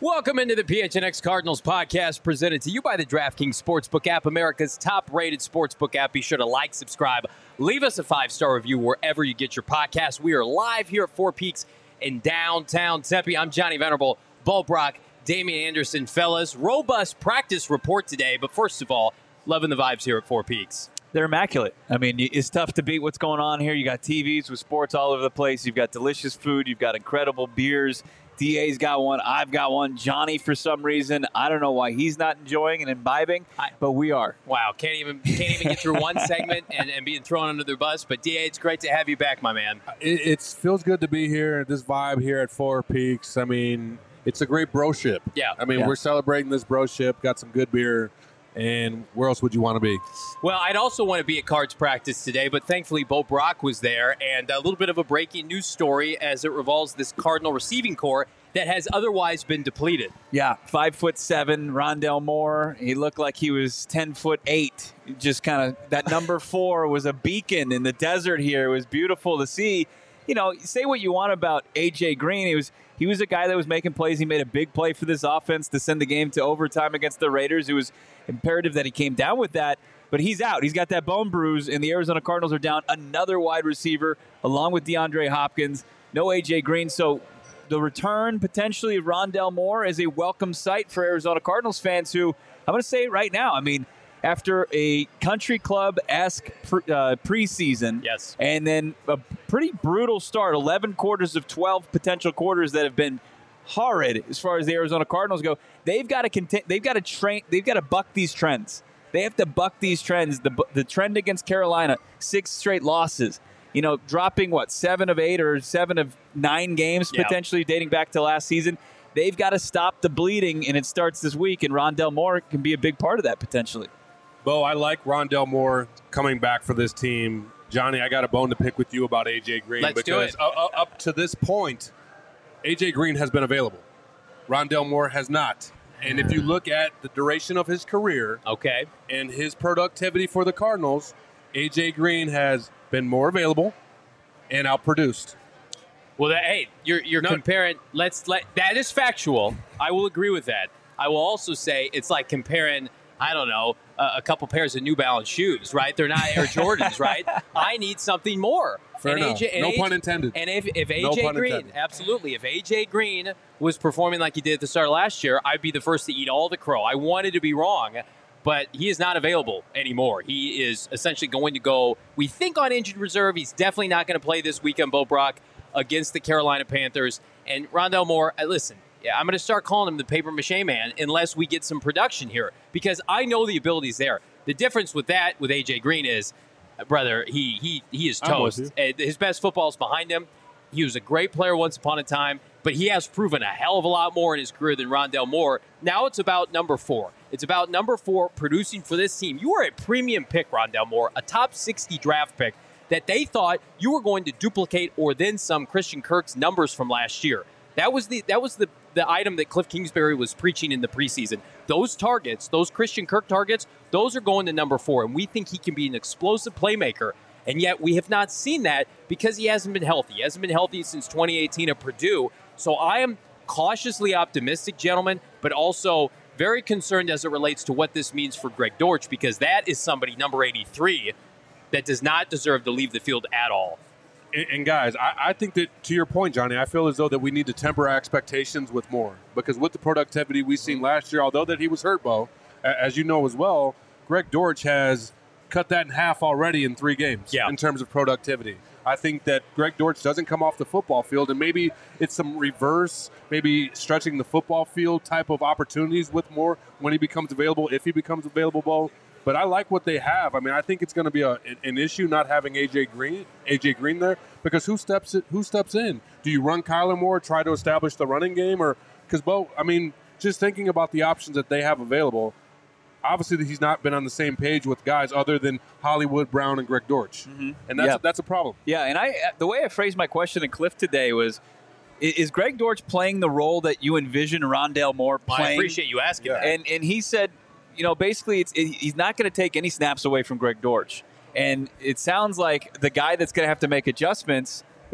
Welcome into the PHNX Cardinals podcast presented to you by the DraftKings Sportsbook app, America's top-rated sportsbook app. Be sure to like, subscribe, leave us a 5-star review wherever you get your podcast. We are live here at Four Peaks in downtown Tempe. I'm Johnny Venerable, Bo Brock, Damian Anderson. Fellas, robust practice report today, but first of all, loving the vibes here at Four Peaks. They're immaculate. I mean, it's tough to beat what's going on here. You got TVs with sports all over the place. You've got delicious food. You've got incredible beers. DA's got one. I've got one. Johnny, for some reason, I don't know why he's not enjoying and imbibing, but we are. Wow, can't even get through one segment and being thrown under the bus. But DA, it's great to have you back, my man. It feels good to be here. This vibe here at Four Peaks. I mean, it's a great broship. Yeah. I mean, we're celebrating this broship. Got some good beer. And where else would you want to be? Well, I'd also want to be at Cards practice today, but thankfully Bo Brock was there. And a little bit of a breaking news story as it revolves this Cardinal receiving core that has otherwise been depleted. Yeah, 5'7", Rondell Moore. He looked like he was 10'8". Just kind of that number 4 was a beacon in the desert here. It was beautiful to see. You know, say what you want about A.J. Green. He was a guy that was making plays. He made a big play for this offense to send the game to overtime against the Raiders. It was imperative that he came down with that, but he's out. He's got that bone bruise, and the Arizona Cardinals are down another wide receiver along with DeAndre Hopkins. No A.J. Green, so the return potentially of Rondell Moore is a welcome sight for Arizona Cardinals fans who, I'm going to say it right now, I mean, after a country club-esque preseason, yes, and then a pretty brutal start, 11 quarters of 12 potential quarters that have been horrid as far as the Arizona Cardinals go. They've got to buck these trends. They have to buck these trends. The trend against Carolina, 6 straight losses. You know, dropping 7 of 8 or 7 of 9 games potentially dating back to last season. They've got to stop the bleeding, and it starts this week. And Rondell Moore can be a big part of that potentially. Bo, I like Rondell Moore coming back for this team. Johnny, I got a bone to pick with you about A.J. Green. Let's do it. Up to this point, A.J. Green has been available. Rondell Moore has not. And if you look at the duration of his career and his productivity for the Cardinals, A.J. Green has been more available and outproduced. Well, you're comparing. That is factual. I will agree with that. I will also say it's like comparing, I don't know, a couple pairs of New Balance shoes, right? They're not Air Jordans, right? I need something more. Fair enough. No pun intended. And if A.J. Green, absolutely, if A.J. Green was performing like he did at the start of last year, I'd be the first to eat all the crow. I wanted to be wrong, but he is not available anymore. He is essentially going to go, we think, on injured reserve. He's definitely not going to play this weekend, Bo Brock, against the Carolina Panthers. And Rondell Moore, listen, I'm going to start calling him the paper mache man unless we get some production here, because I know the ability's there. The difference with A.J. Green is, brother, he is toast. His best football is behind him. He was a great player once upon a time, but he has proven a hell of a lot more in his career than Rondell Moore. Now it's about number 4. It's about number 4 producing for this team. You are a premium pick, Rondell Moore, a top 60 draft pick that they thought you were going to duplicate or then some Christian Kirk's numbers from last year. That was the item that Cliff Kingsbury was preaching in the preseason. Those targets, those Christian Kirk targets, those are going to number 4, and we think he can be an explosive playmaker. And yet we have not seen that because he hasn't been healthy. He hasn't been healthy since 2018 at Purdue. So I am cautiously optimistic, gentlemen, but also very concerned as it relates to what this means for Greg Dortch, because that is somebody, number 83, that does not deserve to leave the field at all. And guys, I think that, to your point, Johnny, I feel as though that we need to temper our expectations with more, because with the productivity we've seen last year, although that he was hurt, Bo, as you know as well, Greg Dortch has cut that in half already in 3 games in terms of productivity. I think that Greg Dortch doesn't come off the football field, and maybe it's some reverse, maybe stretching the football field type of opportunities with more when he becomes available, if he becomes available, Bo. But I like what they have. I mean, I think it's going to be an issue not having A.J. Green there, because who steps in? Do you run Kyler Moore, try to establish the running game, or because Bo? I mean, just thinking about the options that they have available, obviously he's not been on the same page with guys other than Hollywood Brown and Greg Dortch, and that's a problem. Yeah, and the way I phrased my question to Cliff today was, is Greg Dortch playing the role that you envision Rondell Moore playing? I appreciate you asking that. And he said, you know, basically he's not going to take any snaps away from Greg Dortch. And it sounds like the guy that's going to have to make adjustments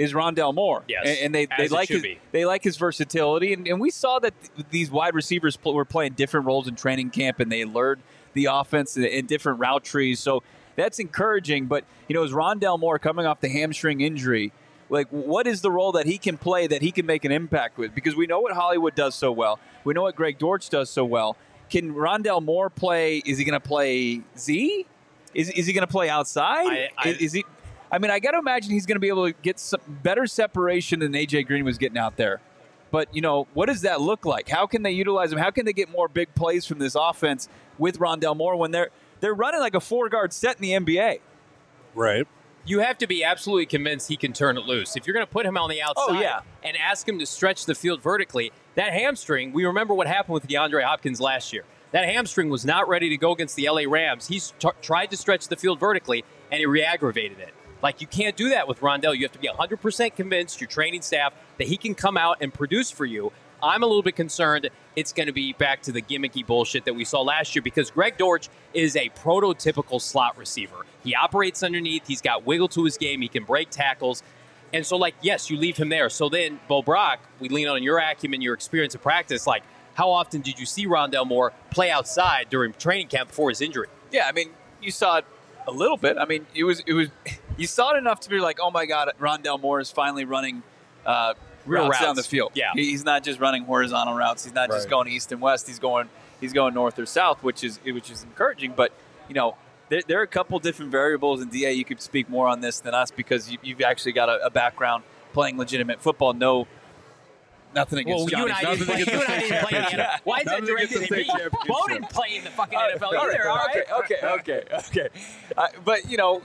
is Rondale Moore. Yes, and they like his versatility. And we saw that these wide receivers were playing different roles in training camp, and they learned the offense in different route trees. So that's encouraging. But, is Rondale Moore coming off the hamstring injury, like, what is the role that he can play that he can make an impact with? Because we know what Hollywood does so well. We know what Greg Dortch does so well. Can Rondale Moore play? Is he going to play Z? Is he going to play outside? Is he? I mean, I got to imagine he's going to be able to get some better separation than A.J. Green was getting out there. But, what does that look like? How can they utilize him? How can they get more big plays from this offense with Rondale Moore when they're running like a 4-guard set in the NBA? Right. You have to be absolutely convinced he can turn it loose. If you're going to put him on the outside and ask him to stretch the field vertically, that hamstring, we remember what happened with DeAndre Hopkins last year. That hamstring was not ready to go against the LA Rams. He's tried to stretch the field vertically, and he re-aggravated it. Like, you can't do that with Rondale. You have to be 100% convinced, your training staff, that he can come out and produce for you. I'm a little bit concerned it's going to be back to the gimmicky bullshit that we saw last year, because Greg Dortch is a prototypical slot receiver. He operates underneath. He's got wiggle to his game. He can break tackles. And so, yes, you leave him there. So then, Bo Brock, we lean on your acumen, your experience in practice. Like, how often did you see Rondale Moore play outside during training camp before his injury? Yeah, I mean, you saw it a little bit. I mean, it was you saw it enough to be like, oh my God, Rondale Moore is finally running real routes down the field. Yeah, he's not just running horizontal routes. He's not just going east and west. He's going north or south, which is encouraging. But there are a couple different variables, and DA, you could speak more on this than us because you've actually got a background playing legitimate football. Nothing against you and I didn't play in the NFL. Why is that directed at me? Bo didn't play in the fucking NFL either. All right? Okay. But,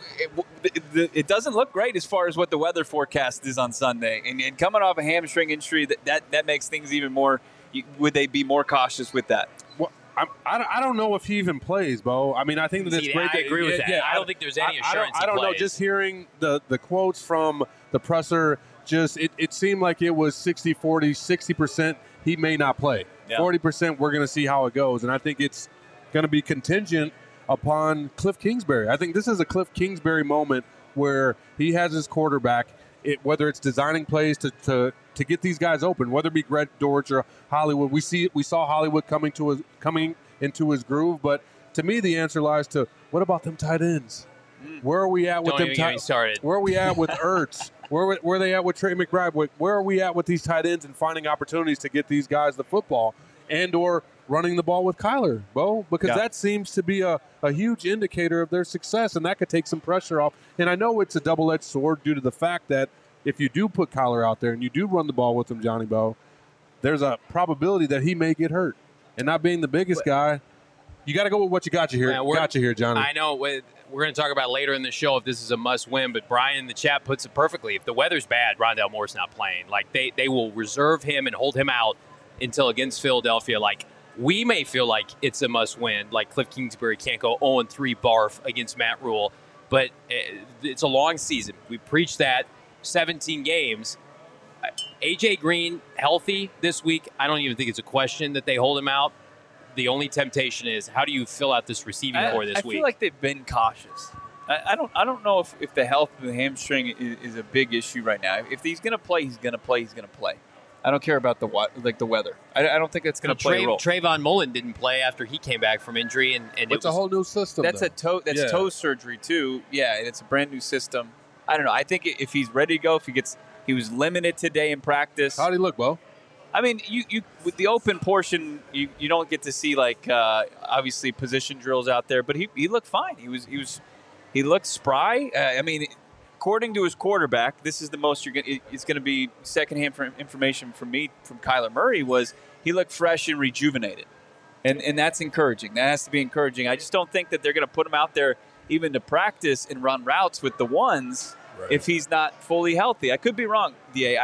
it doesn't look great as far as what the weather forecast is on Sunday. And coming off a hamstring injury, that makes things even more – would they be more cautious with that? Well, I don't know if he even plays, Bo. I mean, I think that it's great. I agree with that. Yeah, I don't think there's any assurance I don't know. Just hearing the quotes from the presser – it seemed like it was 60-40, 60% he may not play. 40% we're going to see how it goes. And I think it's going to be contingent upon Cliff Kingsbury. I think this is a Cliff Kingsbury moment where he has his quarterback, whether it's designing plays to get these guys open, whether it be Greg Dortch or Hollywood. We saw Hollywood coming into his groove. But to me, the answer lies to, what about them tight ends? Where are we at with them tight ends? Where are we at with Ertz? Where are they at with Trey McBride? Where are we at with these tight ends and finding opportunities to get these guys the football and or running the ball with Kyler, Bo? Because that seems to be a huge indicator of their success, and that could take some pressure off. And I know it's a double-edged sword due to the fact that if you do put Kyler out there and you do run the ball with him, Johnny Bo, there's a probability that he may get hurt. And not being the biggest guy, you got to go with what you got you here, Johnny. I know. We're going to talk about later in the show if this is a must-win, but Brian in the chat puts it perfectly. If the weather's bad, Rondale Moore's not playing. Like, they will reserve him and hold him out until against Philadelphia. Like, we may feel like it's a must-win. Like, Cliff Kingsbury can't go 0-3 barf against Matt Rule, but it's a long season. We preached that. 17 games. A.J. Green healthy this week. I don't even think it's a question that they hold him out. The only temptation is, how do you fill out this receiving core this week? I feel like they've been cautious. I don't know if the health of the hamstring is a big issue right now. If he's going to play, he's going to play. He's going to play. I don't care about the weather. I don't think it's going to play a role. Trayvon Mullen didn't play after he came back from injury, and it's a whole new system. That's toe surgery too. Yeah, and it's a brand new system. I don't know. I think if he's ready to go, he was limited today in practice. How'd he look, Bo? I mean, you with the open portion, you don't get to see obviously position drills out there, but he looked fine. He looked spry. I mean, according to his quarterback, this is the most it's going to be secondhand information from me from Kyler Murray was he looked fresh and rejuvenated, and that's encouraging. That has to be encouraging. I just don't think that they're going to put him out there even to practice and run routes with the ones if he's not fully healthy. I could be wrong, DA.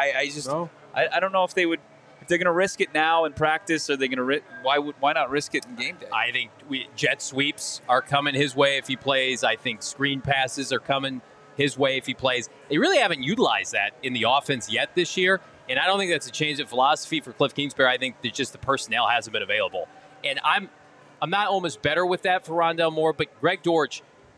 I don't know if they would. If they're going to risk it now in practice, are they going to why not risk it in game day? I think jet sweeps are coming his way if he plays. I think screen passes are coming his way if he plays. They really haven't utilized that in the offense yet this year, and I don't think that's a change in philosophy for Cliff Kingsbury. I think that just the personnel hasn't been available. And I'm not almost better with that for Rondale Moore, but Greg Dortch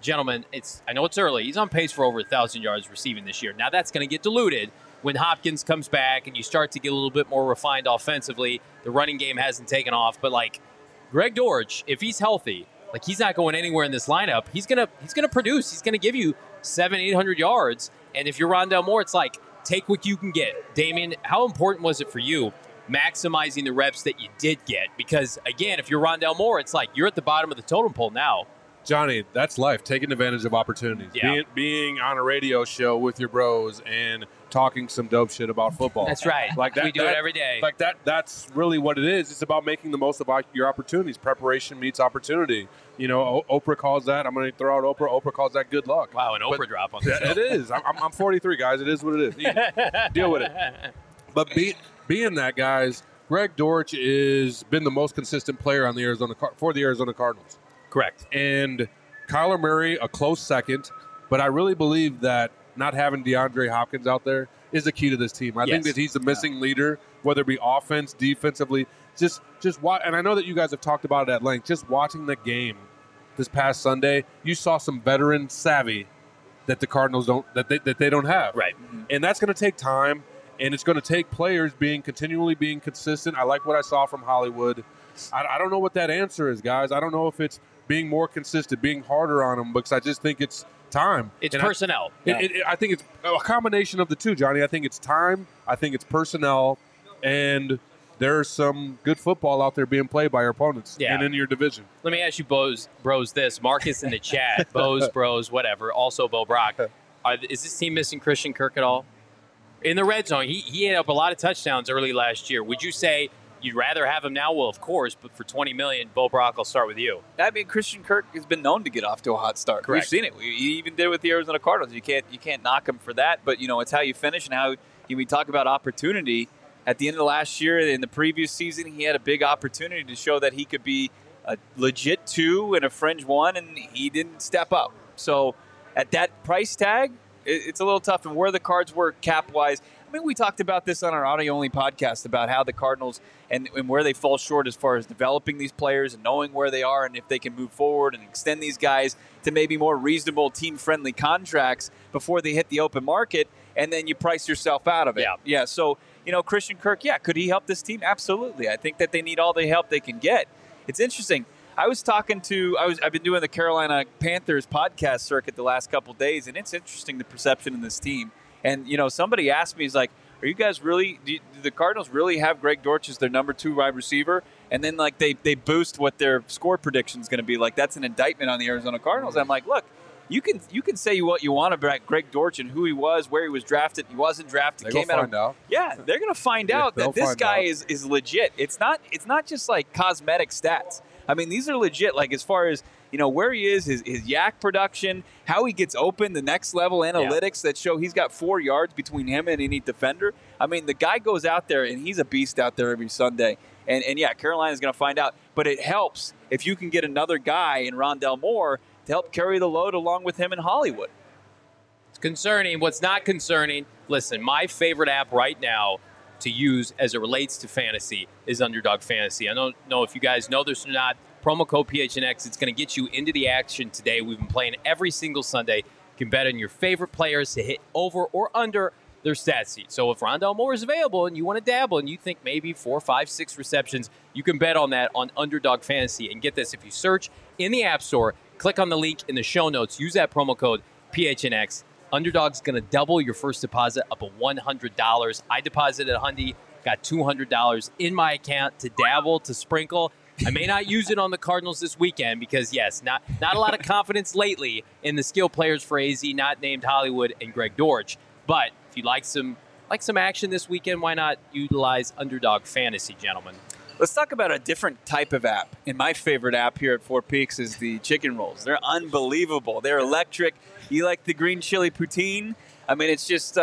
gentlemen, I know it's early. He's on pace for over 1,000 yards receiving this year. Now that's going to get diluted when Hopkins comes back and you start to get a little bit more refined offensively. The running game hasn't taken off, but like Greg Dortch, if he's healthy, like he's not going anywhere in this lineup. He's gonna produce. He's gonna give you 700-800 yards. And if you're Rondale Moore, it's like take what you can get. Damien, how important was it for you maximizing the reps that you did get? Because again, if you're Rondale Moore, it's like you're at the bottom of the totem pole now. Johnny, that's life. Taking advantage of opportunities. Yeah. Being on a radio show with your bros and talking some dope shit about football. That's right. Like that, we do it every day. Like that's really what it is. It's about making the most of your opportunities. Preparation meets opportunity. You know, Oprah calls that. I'm going to throw out Oprah. Oprah calls that good luck. Wow, an Oprah drop on the show. It is. I'm 43, guys. It is what it is. Deal with it. But being that, guys, Greg Dortch has been the most consistent player on the for the Arizona Cardinals. Correct. And Kyler Murray, a close second. But I really believe that not having DeAndre Hopkins out there is the key to this team. I think that he's the missing leader, whether it be offense, defensively. Just watch. And I know that you guys have talked about it at length. Just watching the game this past Sunday, you saw some veteran savvy that the Cardinals they don't have. Right. And that's going to take time, and it's going to take players continually being consistent. I like what I saw from Hollywood. I don't know what that answer is, guys. I don't know if it's being more consistent, being harder on them, because I just think it's time. It's personnel. I think it's a combination of the two, Johnny. I think it's time. I think it's personnel, and there's some good football out there being played by our opponents and in your division. Let me ask you, bros, this. Marcus in the chat, bros, whatever. Also, Bo Brock. Is this team missing Christian Kirk at all? In the red zone, he had up a lot of touchdowns early last year. Would you say you'd rather have him now? Well, of course, but for $20 million, Bo Brock, I'll start with you. I mean, Christian Kirk has been known to get off to a hot start. Correct. We've seen it. He even did it with the Arizona Cardinals. You can't knock him for that, but it's how you finish and how we talk about opportunity. At the end of the last year, in the previous season, he had a big opportunity to show that he could be a legit 2 and a fringe 1, and he didn't step up. So at that price tag, it's a little tough. And where the Cards were cap-wise, I mean, we talked about this on our audio-only podcast about how the Cardinals and where they fall short as far as developing these players and knowing where they are and if they can move forward and extend these guys to maybe more reasonable team-friendly contracts before they hit the open market, and then you price yourself out of it. Yeah. So, Christian Kirk, could he help this team? Absolutely. I think that they need all the help they can get. It's interesting. I've been doing the Carolina Panthers podcast circuit the last couple of days, and it's interesting the perception in this team. And, somebody asked me, he's like, are you guys really, do the Cardinals really have Greg Dortch as their number 2 wide receiver? And then, like, they boost what their score prediction is going to be. Like, that's an indictment on the Arizona Cardinals. I'm like, look, you can say what you want about Greg Dortch and who he was, where he was drafted. He wasn't drafted. They're going to find out. Yeah, they're going to find out that this guy is legit. It's not just like cosmetic stats. I mean, these are legit. Like, as far as where he is, his yak production, how he gets open, the next level analytics that show he's got 4 yards between him and any defender. I mean, the guy goes out there and he's a beast out there every Sunday. And Carolina's going to find out. But it helps if you can get another guy in Rondale Moore to help carry the load along with him in Hollywood. It's concerning. What's not concerning, listen, my favorite app right now to use as it relates to fantasy is Underdog Fantasy. I don't know if you guys know this or not. Promo code PHNX, it's going to get you into the action today. We've been playing every single Sunday. You can bet on your favorite players to hit over or under their stat sheet. So if Rondale Moore is available and you want to dabble and you think maybe 4, 5, 6 receptions, you can bet on that on Underdog Fantasy. And get this, if you search in the App Store, click on the link in the show notes, use that promo code PHNX. Underdog's going to double your first deposit up to $100. I deposited $100, got $200 in my account to dabble, to sprinkle. I may not use it on the Cardinals this weekend because, yes, not a lot of confidence lately in the skill players for AZ, not named Hollywood and Greg Dortch. But if you like some action this weekend, why not utilize Underdog Fantasy, gentlemen? Let's talk about a different type of app. And my favorite app here at Four Peaks is the chicken rolls. They're unbelievable. They're electric. You like the green chili poutine? I mean, it's just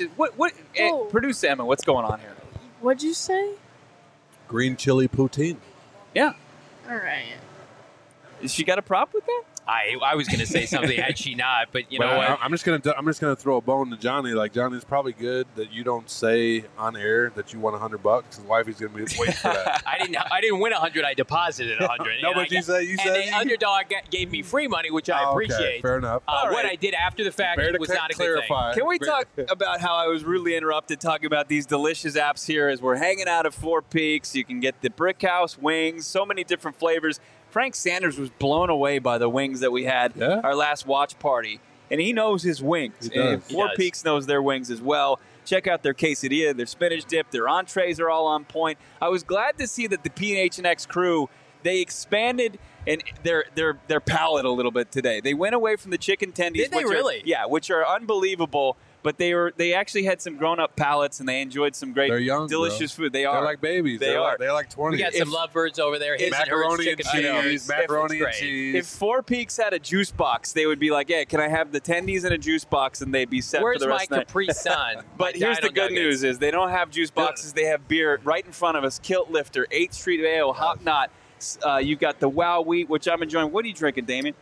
producer Emma, what's going on here? What'd you say? Green chili poutine. Yeah. All right. She got a prop with that? I was going to say something had she not, but you know what? I'm just gonna throw a bone to Johnny. Like, Johnny's probably good that you don't say on air that you won $100. His wifey's gonna be waiting for that. I didn't win 100. I deposited 100. No, but you said the underdog gave me free money, which I appreciate. Okay, fair enough. What I did after the fact was not a good thing. Can we talk about how I was rudely interrupted talking about these delicious apps here as we're hanging out at Four Peaks? You can get the Brick House wings, so many different flavors. Frank Sanders was blown away by the wings that we had our last watch party. And he knows his wings. And Four Peaks knows their wings as well. Check out their quesadilla, their spinach dip, their entrees are all on point. I was glad to see that the PHNX crew, they expanded and their palate a little bit today. They went away from the chicken tendies. Did they really? Which are unbelievable. But they actually had some grown-up palates, and they enjoyed some great, delicious food. They're like babies. They're like 20. We got some lovebirds over there. Macaroni and cheese. Macaroni and cheese. If Four Peaks had a juice box, they would be like, "Yeah, can I have the tendies in a juice box?" And they'd be set for the rest of the night. Where's my Capri Sun? But here's the good news: is they don't have juice boxes. They have beer right in front of us. Kilt Lifter, 8th Street Ale, Hop Knot. You've got the Wow Wheat, which I'm enjoying. What are you drinking, Damien?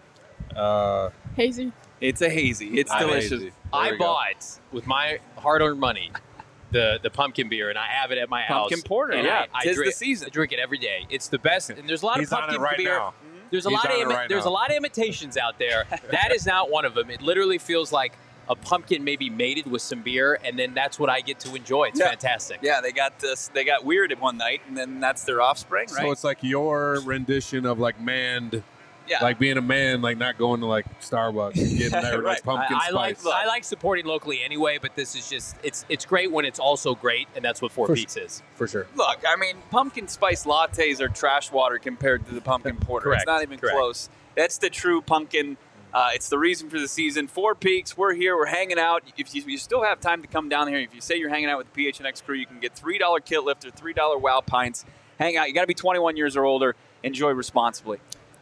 Hazy. It's a hazy. It's delicious. I bought with my hard-earned money the pumpkin beer, and I have it at my house. Pumpkin porter, and I tis drink, the season. I drink it every day. It's the best, and there's a lot of pumpkin beer. Now. There's a lot of imitations out there. That is not one of them. It literally feels like a pumpkin maybe mated with some beer, and then that's what I get to enjoy. It's fantastic. Yeah, they got weird at one night, and then that's their offspring, right? So it's like your rendition of like manned. Yeah. Like being a man, like not going to like Starbucks and getting that like pumpkin spice. I like supporting locally anyway, but this is just it's great when it's also great, and that's what Four Peaks is. For sure. Look, I mean, pumpkin spice lattes are trash water compared to the pumpkin porter. Correct. It's not even close. That's the true pumpkin. It's the reason for the season. Four Peaks, we're here. We're hanging out. If you still have time to come down here, if you say you're hanging out with the PHNX crew, you can get $3 Kilt Lifter, $3 Wow Pints. Hang out. You got to be 21 years or older. Enjoy responsibly.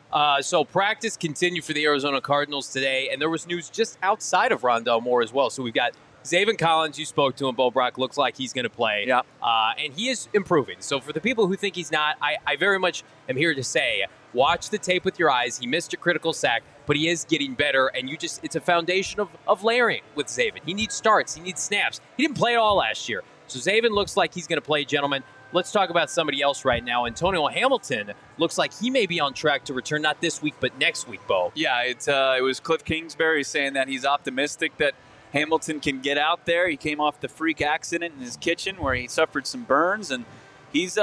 So practice continued for the Arizona Cardinals today, and there was news just outside of Rondell Moore as well. So we've got Zaven Collins, you spoke to him. Bo Brock looks like he's going to play. Yeah. And he is improving. So for the people who think he's not, I very much am here to say, watch the tape with your eyes. He missed a critical sack, but he is getting better, and it's a foundation of layering with Zaven. He needs starts. He needs snaps. He didn't play at all last year. So Zaven looks like he's going to play, gentlemen. Let's talk about somebody else right now. Antonio Hamilton looks like he may be on track to return not this week, but next week, Bo. Yeah, it was Cliff Kingsbury saying that he's optimistic that Hamilton can get out there. He came off the freak accident in his kitchen where he suffered some burns, and he's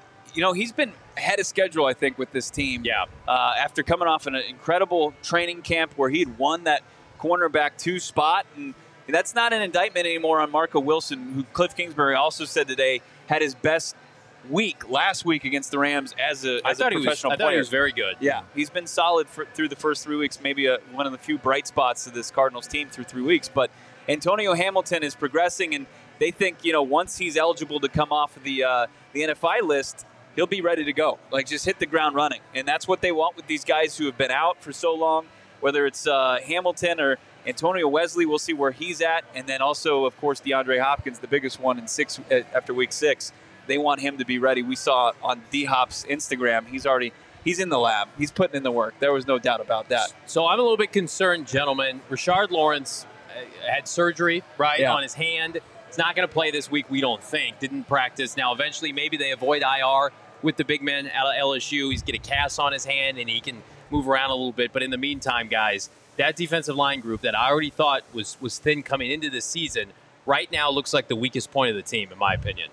been ahead of schedule, I think, with this team. Yeah. After coming off an incredible training camp where he'd won that cornerback 2 spot, and that's not an indictment anymore on Marco Wilson, who Cliff Kingsbury also said today had his best week last week against the Rams as a professional player. I thought he was very good. Yeah, he's been solid through the first 3 weeks, maybe one of the few bright spots of this Cardinals team through 3 weeks. But Antonio Hamilton is progressing, and they think, once he's eligible to come off of the NFI list, he'll be ready to go. Like, just hit the ground running. And that's what they want with these guys who have been out for so long, whether it's Hamilton or Antonio Wesley. We'll see where he's at. And then also, of course, DeAndre Hopkins, the biggest one after week 6. They want him to be ready. We saw on D-Hop's Instagram, he's in the lab. He's putting in the work. There was no doubt about that. So I'm a little bit concerned, gentlemen. Rashard Lawrence had surgery, on his hand. He's not going to play this week, we don't think. Didn't practice. Now, eventually, maybe they avoid IR with the big man out of LSU. He's got a cast on his hand, and he can move around a little bit. But in the meantime, guys, that defensive line group that I already thought was thin coming into this season right now looks like the weakest point of the team, in my opinion.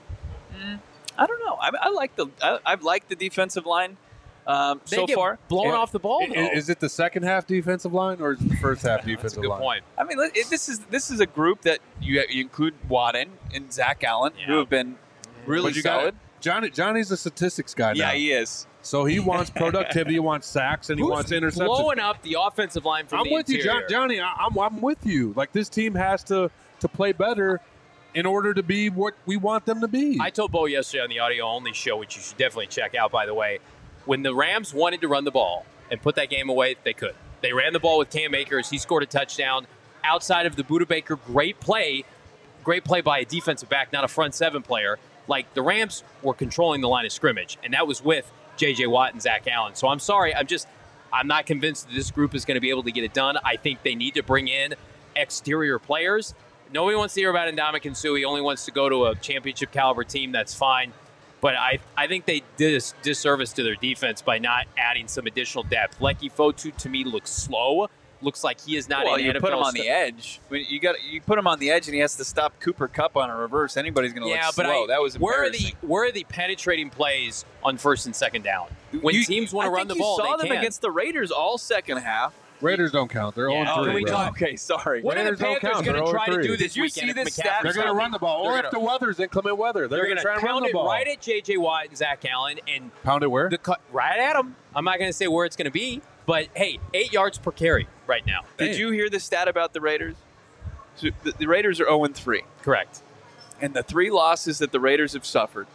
I don't know. I've liked the defensive line so far. Blown off the ball. Is it the second half defensive line or is it the first half defensive line? That's a good I point. mean, this is a group that you include Wadden and Zach Allen, who have been really solid. Johnny's a statistics guy now. Yeah, he is. So he wants productivity, he wants sacks, and he wants interceptions. Blowing up the offensive line from the interior. I'm with you, Johnny. I'm with you. Like, this team has to play better in order to be what we want them to be. I told Bo yesterday on the audio-only show, which you should definitely check out, by the way, when the Rams wanted to run the ball and put that game away, they could. They ran the ball with Cam Akers. He scored a touchdown. Outside of the Budda Baker, great play by a defensive back, not a front seven player. Like, the Rams were controlling the line of scrimmage, and that was with J.J. Watt and Zach Allen. So I'm sorry. I'm not convinced that this group is going to be able to get it done. I think they need to bring in exterior players. Nobody wants to hear about Ndamukong Suh. He only wants to go to a championship caliber team. That's fine. But I think they did a disservice to their defense by not adding some additional depth. Leki Fotu, to me, looks slow. Looks like he is not well, an you NFL put him on the edge. You put him on the edge, and he has to stop Cooper Kupp on a reverse. Anybody's going to look slow. That was embarrassing. Where are the penetrating plays on first and second down? When teams want to run the ball, they saw they them against the Raiders all second half. Raiders don't count. They're 0-3. Okay, sorry. What are the Panthers going to try to do this weekend? Did you see this stat? They're going to run the ball. Or if the weather's inclement weather, they're going to try and run the ball. Right at J.J. Watt and Zach Allen. And pound it where? Right at them. I'm not going to say where it's going to be. But, hey, 8 yards per carry right now. Did you hear the stat about the Raiders? So the Raiders are 0-3. Correct. And the 3 losses that the Raiders have suffered,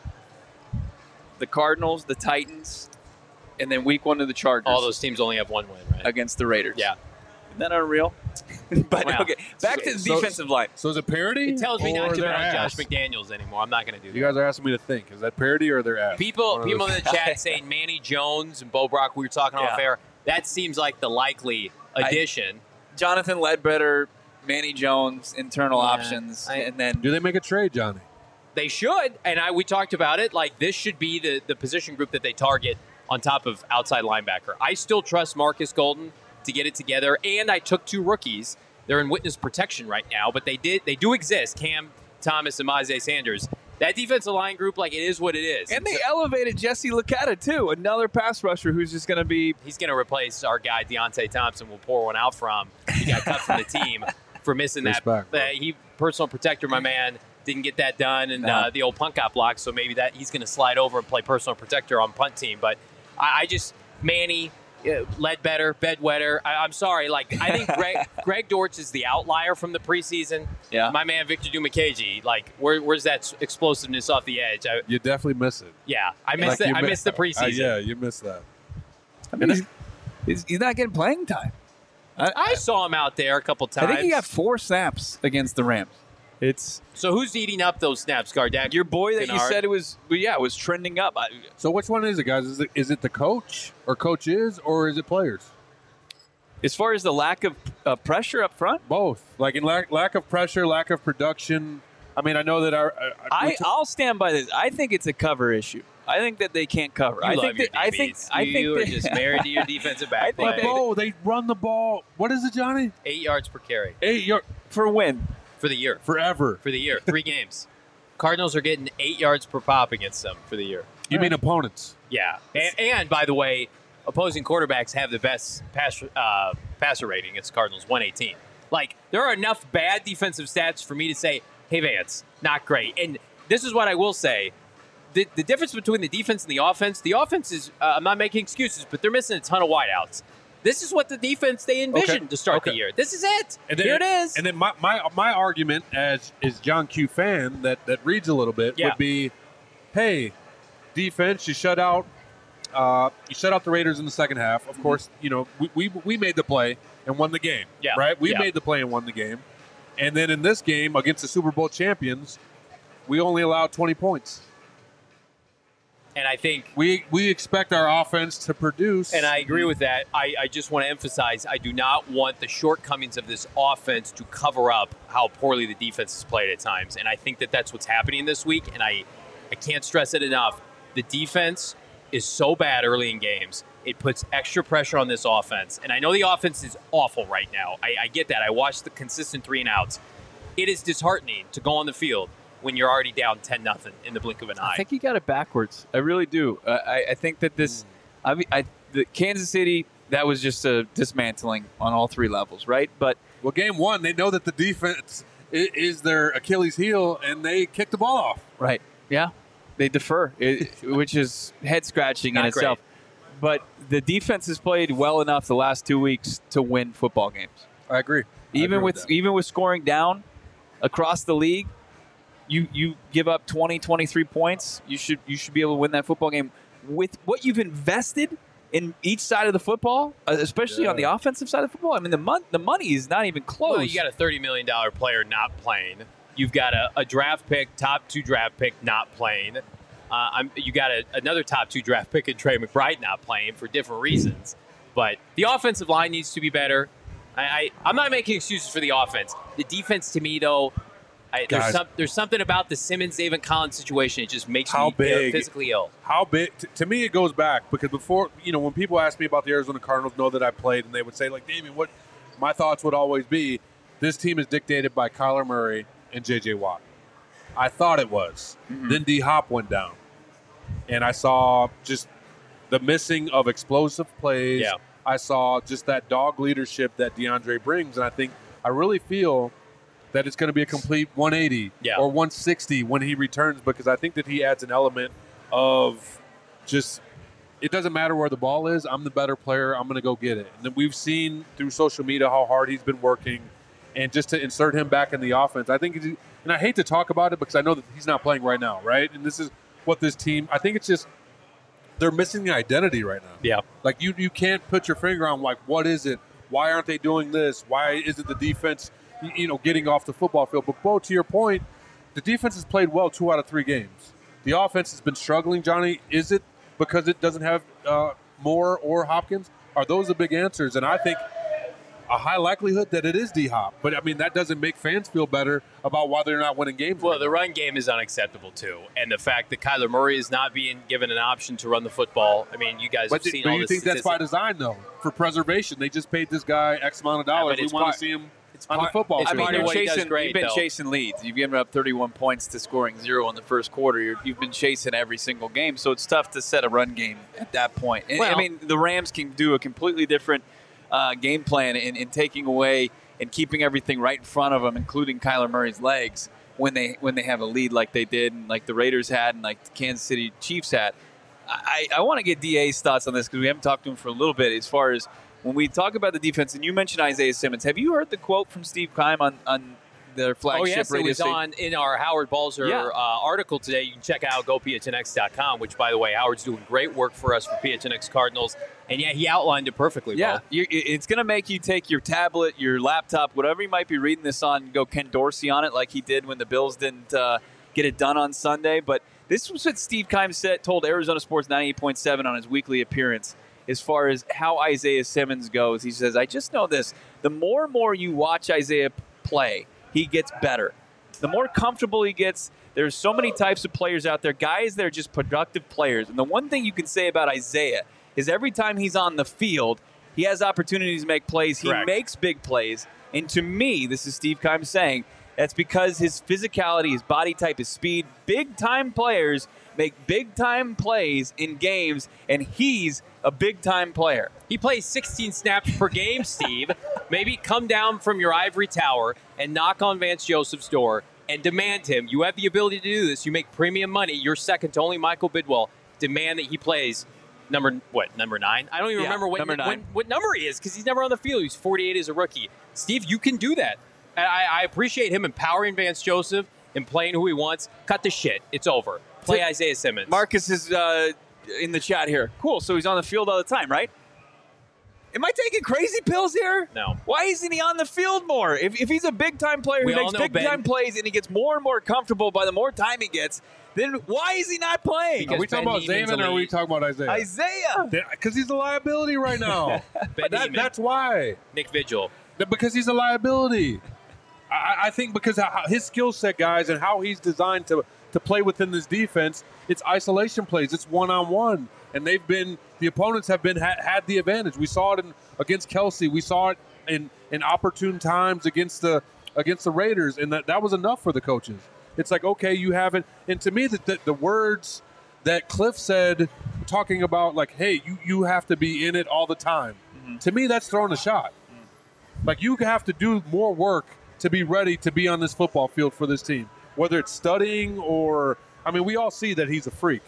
the Cardinals, the Titans, and then week 1 of the Chargers. All those teams only have 1 win, right? Against the Raiders. Yeah. Isn't that unreal? But, wow. Okay, back to the defensive line. So is it parody? It tells me not to bet on ass? Josh McDaniels anymore. I'm not going to do that. You guys are asking me to think. Is that parody or their ass? People in the chat saying Manny Jones and Bo Brock, we were talking off air. That seems like the likely addition. Jonathan Ledbetter, Manny Jones, internal options, and then do they make a trade, Johnny? They should, and we talked about it. Like this should be the position group that they target on top of outside linebacker. I still trust Marcus Golden to get it together, and I took 2 rookies. They're in witness protection right now, but they do exist. Cam Thomas and Myjai Sanders. That defensive line group, like, it is what it is. And they elevated Jesse Lecata, too, another pass rusher who's just going to be... He's going to replace our guy, Deontay Thompson. We'll pour one out from. He got cut from the team for missing Respect, that. He personal protector, my man, didn't get that done, and the old punt got blocked, so maybe that he's going to slide over and play personal protector on punt team. But I just... Manny... Ledbetter, Bedwetter. I'm sorry. Like I think Greg Dortch is the outlier from the preseason. Yeah. My man Victor Dimukeje. Like where's that explosiveness off the edge? You definitely miss it. Yeah, I missed it. I missed the preseason. Yeah, you missed that. I mean, he's not getting playing time. I saw him out there a couple times. I think he got 4 snaps against the Rams. So who's eating up those snaps, Gardeck? Your boy that you said it was trending up. So which one is it, guys? Is it the coach or coaches or is it players? As far as the lack of pressure up front? Both. Like in lack of pressure, lack of production. I mean, I know that I'll stand by this. I think it's a cover issue. I think that they can't cover. I think you're just married to your defensive back play. They run the ball. What is it, Johnny? 8 yards per carry. 8 yards for a win. For the year. Forever. For the year. 3 games. Cardinals are getting 8 yards per pop against them for the year. You mean opponents? Yeah. And by the way, opposing quarterbacks have the best passer rating against Cardinals, 118. Like, there are enough bad defensive stats for me to say, hey, Vance, not great. And this is what I will say. The difference between the defense and the offense is, I'm not making excuses, but they're missing a ton of wideouts. This is what the defense they envisioned to start the year. This is it. And then, here it is. And then my argument as John Q fan that reads a little bit would be, hey, defense, you shut out the Raiders in the second half. Of course, we made the play and won the game. Yeah. Right? We made the play and won the game. And then in this game against the Super Bowl champions, we only allowed 20 points. And I think we expect our offense to produce. And I agree with that. I just want to emphasize, I do not want the shortcomings of this offense to cover up how poorly the defense has played at times. And I think that that's what's happening this week. And I can't stress it enough. The defense is so bad early in games. It puts extra pressure on this offense. And I know the offense is awful right now. I get that. I watched the consistent 3-and-outs. It is disheartening to go on the field when you're already down 10-0 in the blink of an eye. I think you got it backwards. I really do. I think that this, the Kansas City, that was just a dismantling on all 3 levels, right? But game 1, they know that the defense is their Achilles heel, and they kick the ball off. Right. Yeah. They defer, which is head scratching in itself. But the defense has played well enough the last 2 weeks to win football games. I agree. Even with scoring down across the league. You give up 20, 23 points, you should be able to win that football game with what you've invested in each side of the football, especially on the offensive side of the football. I mean, the money is not even close. Well, you got a $30 million player not playing. You've got a draft pick, top 2 draft pick not playing. You got another top 2 draft pick in Trey McBride not playing for different reasons. But the offensive line needs to be better. I'm not making excuses for the offense. The defense, to me, though, there's something about the Simmons-David Collins situation. It just makes me physically ill. How big? To me, it goes back because before, when people ask me about the Arizona Cardinals, know that I played, and they would say, like, Damien, what my thoughts would always be, this team is dictated by Kyler Murray and J.J. Watt. I thought it was. Mm-hmm. Then D-Hop went down. And I saw just the missing of explosive plays. Yeah. I saw just that dog leadership that DeAndre brings. And I really feel that it's going to be a complete 180 or 160 when he returns, because I think that he adds an element of just, it doesn't matter where the ball is. I'm the better player. I'm going to go get it. And then we've seen through social media how hard he's been working, and just to insert him back in the offense. I think, and I hate to talk about it because I know that he's not playing right now, right? And this is what this team, I think it's just, they're missing the identity right now. Yeah. Like you can't put your finger on, like, what is it? Why aren't they doing this? Why isn't the defense, getting off the football field? But, Bo, to your point, the defense has played well 2 out of 3 games. The offense has been struggling, Johnny. Is it because it doesn't have Moore or Hopkins? Are those the big answers? And I think a high likelihood that it is D-Hop. But, that doesn't make fans feel better about why they're not winning games. Well, the run game is unacceptable, too. And the fact that Kyler Murray is not being given an option to run the football, you guys have seen all this. But you think that's by design, though, for preservation? They just paid this guy X amount of dollars. We want to see him on the football field. You've been chasing leads. You've given up 31 points to scoring 0 in the first quarter. You've been chasing every single game, so it's tough to set a run game at that point. And, the Rams can do a completely different game plan in taking away and keeping everything right in front of them, including Kyler Murray's legs, when they have a lead like they did, and like the Raiders had, and like the Kansas City Chiefs had. I want to get DA's thoughts on this because we haven't talked to him for a little bit as far as when we talk about the defense, and you mentioned Isaiah Simmons. Have you heard the quote from Steve Keim on their flagship radio station? It was in our Howard Balzer article today. You can check out GoPHNX.com, which, by the way, Howard's doing great work for us for PHNX Cardinals. And, he outlined it perfectly. Yeah, it's going to make you take your tablet, your laptop, whatever you might be reading this on, and go Ken Dorsey on it like he did when the Bills didn't get it done on Sunday. But this was what Steve Keim told Arizona Sports 98.7 on his weekly appearance. As far as how Isaiah Simmons goes, he says, I just know this. The more and more you watch Isaiah play, he gets better. The more comfortable he gets, there's so many types of players out there, guys that are just productive players. And the one thing you can say about Isaiah is every time he's on the field, he has opportunities to make plays. He makes big plays. And to me, this is Steve Keim saying, that's because his physicality, his body type, his speed, big-time players make big-time plays in games, and he's a big-time player. He plays 16 snaps per game, Steve. Maybe come down from your ivory tower and knock on Vance Joseph's door and demand him. You have the ability to do this. You make premium money. You're second to only Michael Bidwell. Demand that he plays number 9? I don't even remember what number he is because he's never on the field. He's 48 as a rookie. Steve, you can do that. I appreciate him empowering Vance Joseph and playing who he wants. Cut the shit. It's over. Play Isaiah Simmons. Marcus is in the chat here. Cool. So he's on the field all the time, right? Am I taking crazy pills here? No. Why isn't he on the field more? If he's a big-time player who makes big-time plays and he gets more and more comfortable by the more time he gets, then why is he not playing? Are we talking about Zaman or are we talking about Isaiah? Isaiah. Because he's a liability right now. That's why. Nick Vigil. Because he's a liability. I think because his skill set, guys, and how he's designed to play within this defense, it's isolation plays. It's one-on-one. And the opponents have had the advantage. We saw it against Kelsey. We saw it in opportune times against the Raiders, and that was enough for the coaches. It's like, okay, you haven't. And to me, the words that Cliff said, talking about like, hey, you have to be in it all the time. Mm-hmm. To me, that's throwing a shot. Mm-hmm. Like you have to do more work to be ready to be on this football field for this team, whether it's studying or, we all see that he's a freak.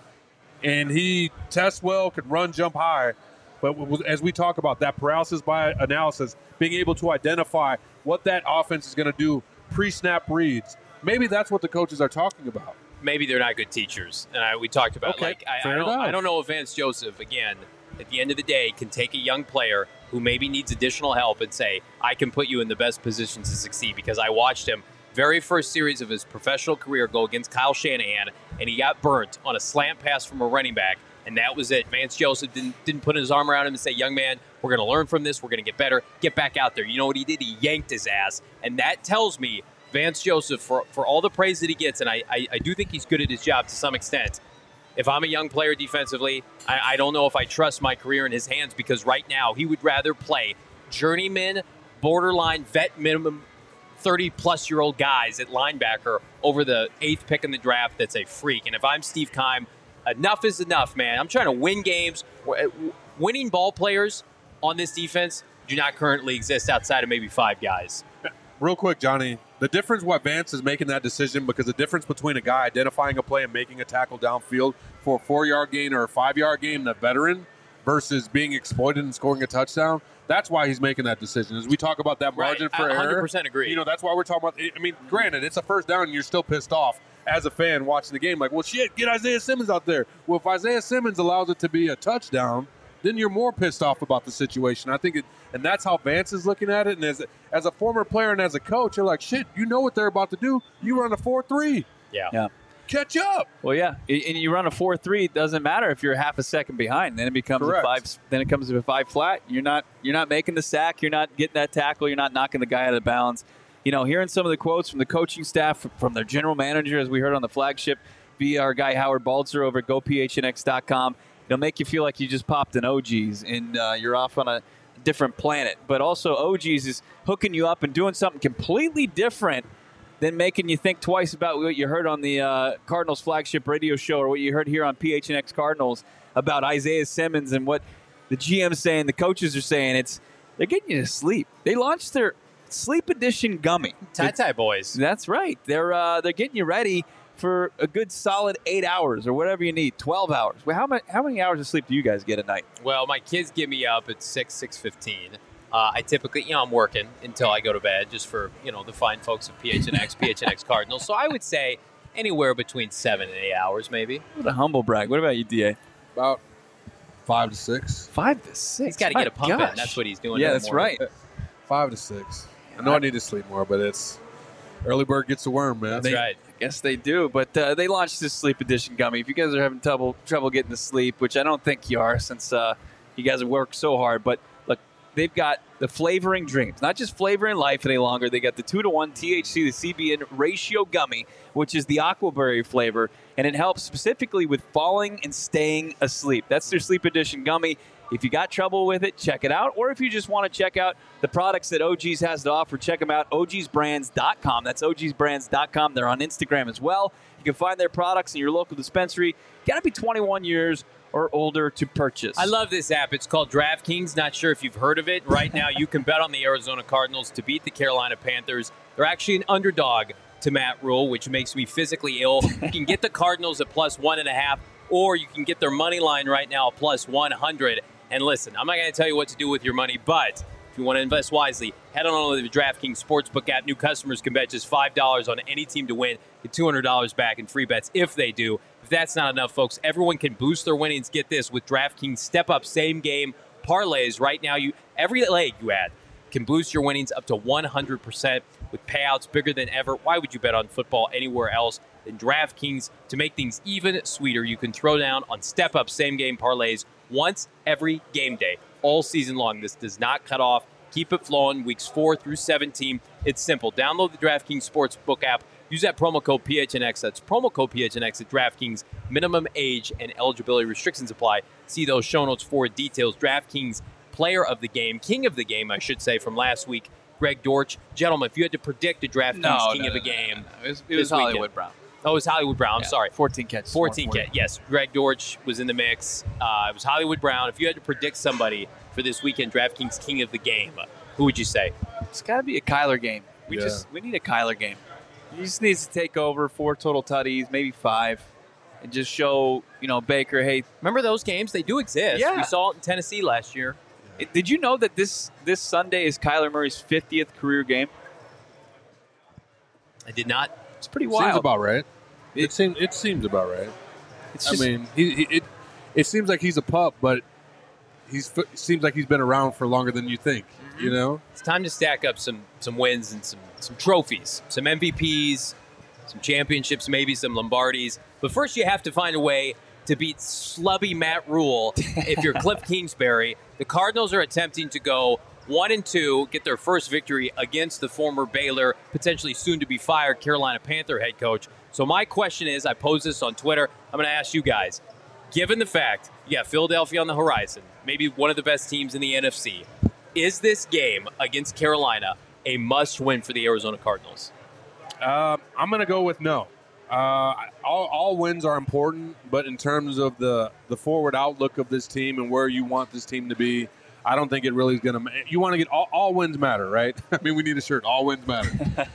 And he tests well, can run, jump high. But as we talk about that paralysis by analysis, being able to identify what that offense is going to do, pre-snap reads, maybe that's what the coaches are talking about. Maybe they're not good teachers. And we talked about, I don't know if Vance Joseph, again, at the end of the day, can take a young player who maybe needs additional help and say, I can put you in the best position to succeed, because I watched him very first series of his professional career go against Kyle Shanahan, and he got burnt on a slant pass from a running back and that was it. Vance Joseph didn't put his arm around him and say, young man, we're going to learn from this. We're going to get better. Get back out there. You know what he did? He yanked his ass. And that tells me Vance Joseph, for all the praise that he gets, and I do think he's good at his job to some extent, if I'm a young player defensively, I don't know if I trust my career in his hands, because right now he would rather play journeyman, borderline, vet minimum, 30-plus-year-old guys at linebacker over the 8th pick in the draft that's a freak. And if I'm Steve Keim, enough is enough, man. I'm trying to win games. Winning ball players on this defense do not currently exist outside of maybe 5 guys. Real quick, Johnny, the difference why Vance is making that decision, because the difference between a guy identifying a play and making a tackle downfield for a 4-yard gain or a 5-yard gain and a veteran versus being exploited and scoring a touchdown, that's why he's making that decision. As we talk about that margin for error. 100% agree. You know, that's why we're talking about, I mean, granted, it's a first down and you're still pissed off as a fan watching the game. Like, well, shit, get Isaiah Simmons out there. Well, if Isaiah Simmons allows it to be a touchdown, then you're more pissed off about the situation. I think and that's how Vance is looking at it. And as a former player and as a coach, you're like, shit, you know what they're about to do. You run a 4-3. Yeah. Catch up. Well, yeah, and you run a 4-3. It doesn't matter if you're half a second behind. Then it becomes Correct. a 5. Then it comes to a 5 flat. You're not making the sack. You're not getting that tackle. You're not knocking the guy out of bounds. You know, hearing some of the quotes from the coaching staff, from their general manager, as we heard on the flagship, via our guy Howard Balzer over at GoPHNX.com, it'll make you feel like you just popped an OG's and you're off on a different planet. But also, OG's is hooking you up and doing something completely different than making you think twice about what you heard on the Cardinals flagship radio show or what you heard here on PHNX Cardinals about Isaiah Simmons and what the GM's saying, the coaches are saying. They're getting you to sleep. They launched their Sleep Edition gummy. Tie boys. That's right. They're getting you ready for a good solid 8 hours or whatever you need, 12 hours. Well, how many hours of sleep do you guys get a night? Well, my kids get me up at 6:15. I typically, I'm working until I go to bed just for, the fine folks of PHNX Cardinals. So I would say anywhere between 7 and 8 hours, maybe. What a humble brag. What about you, DA? About 5 to 6. 5 to 6? He's got to get a pump in. That's what he's doing. Yeah, that's right. 5 to 6. I know I need to sleep more, but it's early bird gets the worm, man. That's right. I guess they do, but they launched this Sleep Edition gummy. If you guys are having trouble getting to sleep, which I don't think you are since you guys have worked so hard, but look, they've got the flavoring dreams, not just flavoring life any longer. They got the 2-to-1 THC to CBN ratio gummy, which is the aquaberry flavor, and it helps specifically with falling and staying asleep. That's their Sleep Edition gummy. If you got trouble with it, check it out. Or if you just want to check out the products that OG's has to offer, check them out, ogsbrands.com. That's ogsbrands.com. They're on Instagram as well. You can find their products in your local dispensary. You got to be 21 years or older to purchase. I love this app. It's called DraftKings. Not sure if you've heard of it. Right now, you can bet on the Arizona Cardinals to beat the Carolina Panthers. They're actually an underdog to Matt Rule, which makes me physically ill. You can get the Cardinals at plus 1.5, or you can get their money line right now at plus 100. And listen, I'm not going to tell you what to do with your money, but if you want to invest wisely, head on over to the DraftKings Sportsbook app. New customers can bet just $5 on any team to win, get $200 back in free bets if they do. If that's not enough, folks, everyone can boost their winnings. Get this, with DraftKings step-up same-game parlays. Right now, every leg you add can boost your winnings up to 100% with payouts bigger than ever. Why would you bet on football anywhere else than DraftKings? To make things even sweeter, you can throw down on step-up same-game parlays once every game day, all season long. This does not cut off. Keep it flowing weeks 4 through 17. It's simple. Download the DraftKings Sportsbook app. Use that promo code PHNX. That's promo code PHNX at DraftKings. Minimum age and eligibility restrictions apply. See those show notes for details. DraftKings Player of the Game, King of the Game, I should say, from last week, Greg Dortch. Gentlemen, if you had to predict a DraftKings King of the Game. It was Hollywood Brown. Oh, it was Hollywood Brown. I'm sorry. 14 catches. 14 catches. Yes, Greg Dortch was in the mix. It was Hollywood Brown. If you had to predict somebody for this weekend, DraftKings King of the Game, who would you say? It's got to be a Kyler game. We need a Kyler game. He just needs to take over 4 total tutties, maybe 5, and just show Baker, hey. Remember those games? They do exist. Yeah. We saw it in Tennessee last year. Did you know that this Sunday is Kyler Murray's 50th career game? I did not. It's pretty wild. Seems about right. It seems about right. It seems like he's a pup, but seems like he's been around for longer than you think. Mm-hmm. It's time to stack up some wins and some trophies, some MVPs, some championships, maybe some Lombardis. But first, you have to find a way to beat slubby Matt Rule if you're Cliff Kingsbury. The Cardinals are attempting to go 1-2, get their first victory against the former Baylor, potentially soon to be fired Carolina Panther head coach. So my question is, I posed this on Twitter, I'm going to ask you guys, given the fact you got Philadelphia on the horizon, maybe one of the best teams in the NFC, is this game against Carolina a must-win for the Arizona Cardinals? I'm going to go with no. All wins are important, but in terms of the forward outlook of this team and where you want this team to be, I don't think it really is going to – you want to get all wins matter, right? I mean, we need a shirt. All wins matter.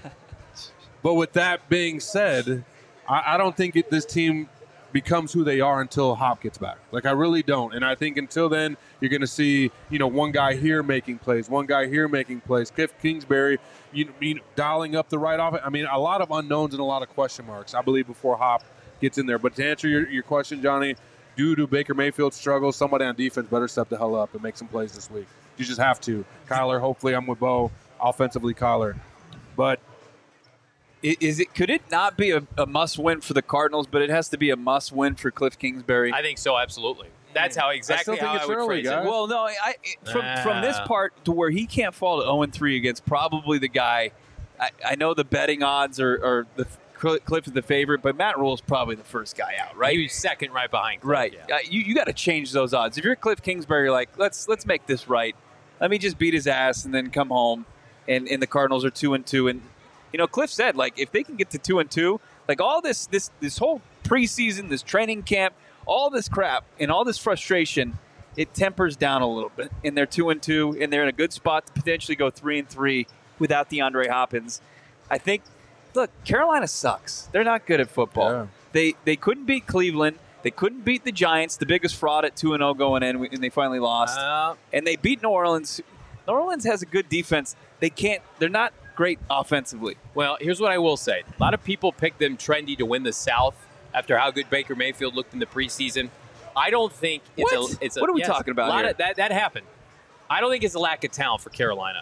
But with that being said, I don't think this team becomes who they are until Hop gets back. Like, I really don't. And I think until then, you're going to see, one guy here making plays, one guy here making plays. Cliff Kingsbury, dialing up the right offense. I mean, a lot of unknowns and a lot of question marks, I believe, before Hop gets in there. But to answer your question, Johnny, due to Baker Mayfield's struggles, somebody on defense better step the hell up and make some plays this week. You just have to. Kyler, hopefully I'm with Bo. Offensively, Kyler. But could it not be a must-win for the Cardinals, but it has to be a must-win for Cliff Kingsbury? I think so, absolutely. That's how exactly how I would phrase it. Well, no, from this part to where he can't fall to 0-3 against probably the guy. I know the betting odds are the Cliff is the favorite, but Matt Rule is probably the first guy out, right? He was second right behind Cliff. Right. Yeah. You got to change those odds. If you're Cliff Kingsbury, you're like, let's make this right. Let me just beat his ass and then come home, and the Cardinals are 2-2. And Cliff said, like, if they can get to 2-2, like all this whole preseason, this training camp, all this crap and all this frustration, it tempers down a little bit. And they're 2-2, and they're in a good spot to potentially go 3-3 without DeAndre Hopkins. I think. Look, Carolina sucks. They're not good at football. Yeah. They couldn't beat Cleveland. They couldn't beat the Giants, the biggest fraud at 2-0 going in, and they finally lost. And they beat New Orleans. New Orleans has a good defense. They're not great offensively. Well, here's what I will say. A lot of people picked them trendy to win the South after how good Baker Mayfield looked in the preseason. I don't think it's what are we talking about here? That happened. I don't think it's a lack of talent for Carolina.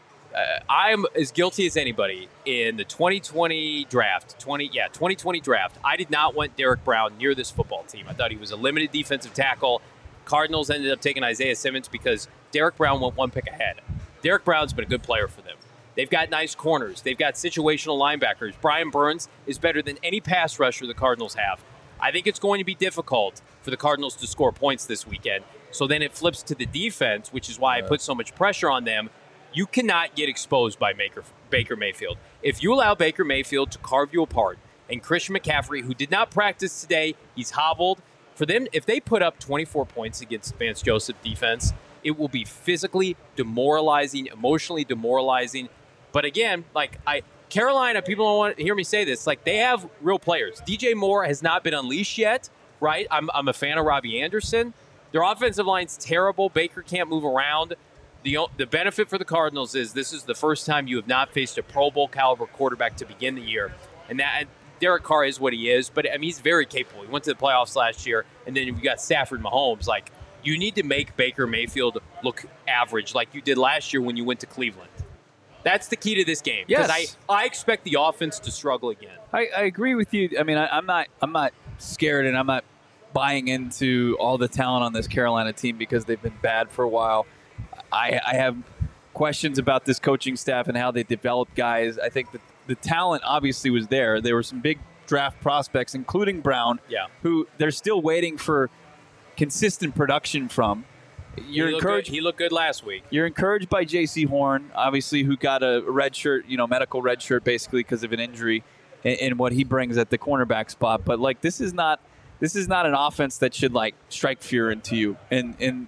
I'm as guilty as anybody in the 2020 draft. 2020 draft. I did not want Derek Brown near this football team. I thought he was a limited defensive tackle. Cardinals ended up taking Isaiah Simmons because Derek Brown went one pick ahead. Derek Brown's been a good player for them. They've got nice corners. They've got situational linebackers. Brian Burns is better than any pass rusher the Cardinals have. I think it's going to be difficult for the Cardinals to score points this weekend. So then it flips to the defense, which is why I put so much pressure on them. You cannot get exposed by Baker Mayfield. If you allow Baker Mayfield to carve you apart, and Christian McCaffrey, who did not practice today, he's hobbled. For them, if they put up 24 points against Vance Joseph defense, it will be physically demoralizing, emotionally demoralizing. But again, Carolina, people don't want to hear me say this. Like, they have real players. DJ Moore has not been unleashed yet, right? I'm a fan of Robbie Anderson. Their offensive line's terrible. Baker can't move around. The benefit for the Cardinals is this is the first time you have not faced a Pro Bowl caliber quarterback to begin the year. And that Derek Carr is what he is, but I mean, he's very capable. He went to the playoffs last year, and then you got Stafford Mahomes. Like, you need to make Baker Mayfield look average like you did last year when you went to Cleveland. That's the key to this game. Yes. Because I expect the offense to struggle again. I agree with you. I mean, I'm not scared, and I'm not buying into all the talent on this Carolina team because they've been bad for a while. I have questions about this coaching staff and how they develop guys. I think that the talent obviously was there. There were some big draft prospects, including Brown, who they're still waiting for consistent production from. You're encouraged. He looked good last week. You're encouraged by J.C. Horn, obviously, who got a red shirt, medical red shirt, basically because of an injury, and what he brings at the cornerback spot. But this is not an offense that should strike fear into you. And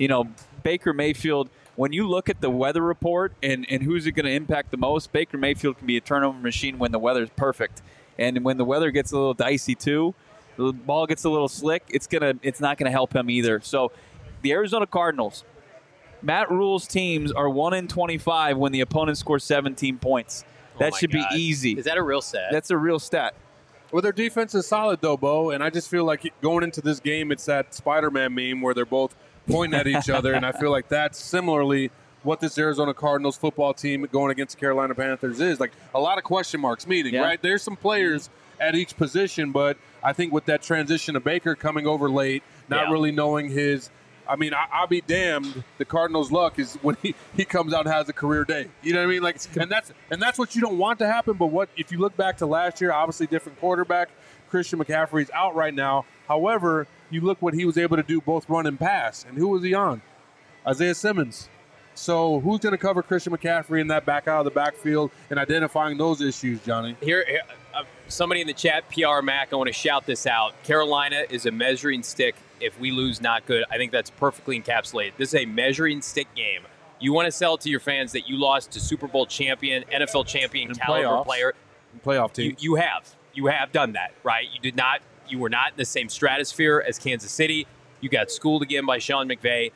Baker Mayfield, when you look at the weather report and who's it going to impact the most, Baker Mayfield can be a turnover machine when the weather's perfect. And when the weather gets a little dicey too, the ball gets a little slick, it's not going to help him either. So the Arizona Cardinals, Matt Rule's teams are 1-25 when the opponent scores 17 points. That should be easy. Is that a real stat? That's a real stat. Well, their defense is solid, though, Bo, and I just feel like going into this game, it's that Spider-Man meme where they're both pointing at each other, and I feel like that's similarly what this Arizona Cardinals football team going against the Carolina Panthers is. Like, a lot of question marks meeting, right? There's some players at each position, but I think with that transition of Baker coming over late, not really knowing his – I mean, I'll be damned. The Cardinals' luck is when he comes out and has a career day. You know what I mean? Like, and that's what you don't want to happen. But what if you look back to last year? Obviously, different quarterback. Christian McCaffrey's out right now. However, you look what he was able to do, both run and pass. And who was he on? Isaiah Simmons. So who's going to cover Christian McCaffrey in that back out of the backfield and identifying those issues, Johnny? Here somebody in the chat, PR Mac, I want to shout this out. Carolina is a measuring stick. If we lose, not good. I think that's perfectly encapsulated. This is a measuring stick game. You want to sell to your fans that you lost to Super Bowl champion, NFL champion caliber player. Playoff team. You have done that, right? You were not in the same stratosphere as Kansas City. You got schooled again by Sean McVay.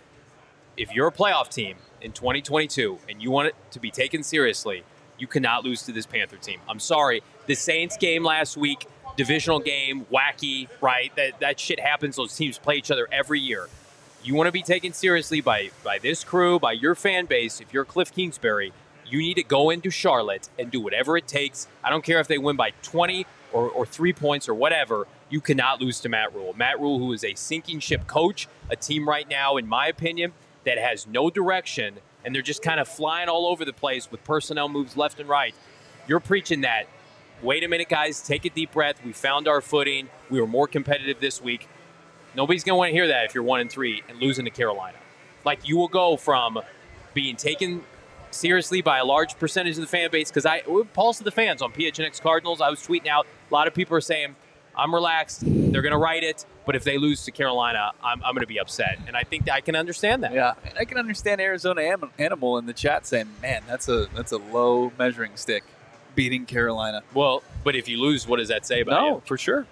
If you're a playoff team in 2022 and you want it to be taken seriously, you cannot lose to this Panther team. I'm sorry. The Saints game last week, divisional game, wacky, right? That shit happens. Those teams play each other every year. You want to be taken seriously by this crew, by your fan base. If you're Cliff Kingsbury, you need to go into Charlotte and do whatever it takes. I don't care if they win by 20 or 3 points or whatever. You cannot lose to Matt Rule. Matt Rule, who is a sinking ship coach, a team right now, in my opinion, that has no direction, and they're just kind of flying all over the place with personnel moves left and right. You're preaching that. Wait a minute, guys. Take a deep breath. We found our footing. We were more competitive this week. Nobody's going to want to hear that if you're 1-3 and losing to Carolina. Like, you will go from being taken seriously by a large percentage of the fan base, because Pulse of the fans on PHNX Cardinals, I was tweeting out, a lot of people are saying, I'm relaxed, they're going to write it, but if they lose to Carolina, I'm going to be upset. And I think I can understand that. Yeah, and I can understand Arizona Animal in the chat saying, man, that's a low measuring stick, beating Carolina. Well, but if you lose, what does that say about you? No, for sure.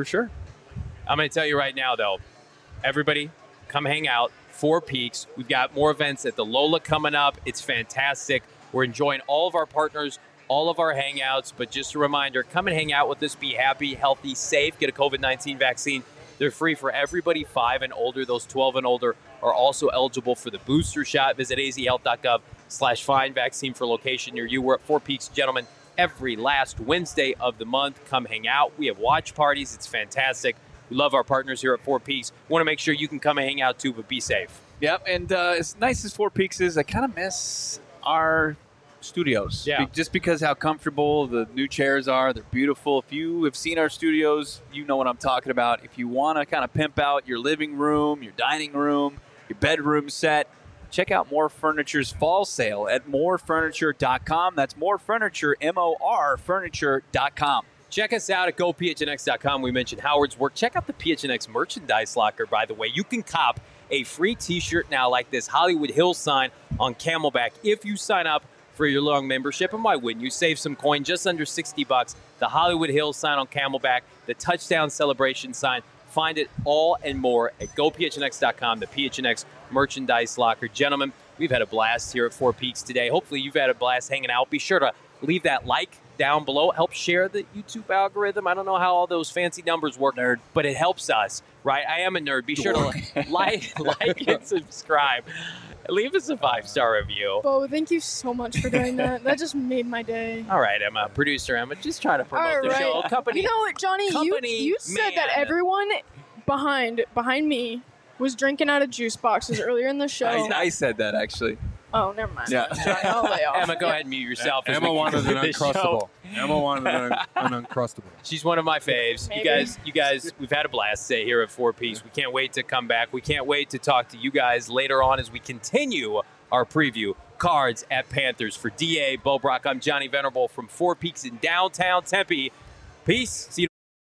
I'm going to tell you right now, though, everybody, come hang out. Four Peaks. We've got more events at the Lola coming up. It's fantastic. We're enjoying all of our partners, all of our hangouts. But just a reminder, come and hang out with us. Be happy, healthy, safe. Get a COVID-19 vaccine. They're free for everybody 5 and older. Those 12 and older are also eligible for the booster shot. Visit azhealth.gov/find vaccine for location near you. We're at Four Peaks, gentlemen, every last Wednesday of the month. Come hang out. We have watch parties. It's fantastic. We love our partners here at Four Peaks. We want to make sure you can come and hang out too, but be safe. Yep, and as nice as Four Peaks is, I kind of miss our studios. Yeah. Just because how comfortable the new chairs are. They're beautiful. If you have seen our studios, you know what I'm talking about. If you want to kind of pimp out your living room, your dining room, your bedroom set, check out More Furniture's fall sale at morefurniture.com. That's More Furniture, MOR Furniture.com. Check us out at gophnx.com. We mentioned Howard's work. Check out the PHNX merchandise locker, by the way. You can cop a free T-shirt now like this Hollywood Hills sign on Camelback if you sign up for your long membership. And why wouldn't you? Save some coin, just under $60. The Hollywood Hills sign on Camelback, the touchdown celebration sign. Find it all and more at gophnx.com, the PHNX merchandise locker. Gentlemen, we've had a blast here at Four Peaks today. Hopefully you've had a blast hanging out. Be sure to leave that like down below. Help share the YouTube algorithm. I don't know how all those fancy numbers work, nerd, but it helps us, right? I am a nerd. Be sure to like and subscribe. Leave us a 5-star review. Oh, thank you so much for doing that. That just made my day. All right, Emma, producer Emma, just trying to promote the show. Company. You know what, Johnny? You said that everyone behind me was drinking out of juice boxes earlier in the show. I said that, actually. Oh, never mind. Yeah. I'll lay off. Emma, go ahead and mute yourself. Emma wanted an Uncrustable. Emma wanted an Uncrustable. She's one of my faves. Maybe. You guys, we've had a blast today here at Four Peaks. We can't wait to come back. We can't wait to talk to you guys later on as we continue our preview. Cards at Panthers. For DA Bo Brock, I'm Johnny Venerable from Four Peaks in downtown Tempe. Peace. See you.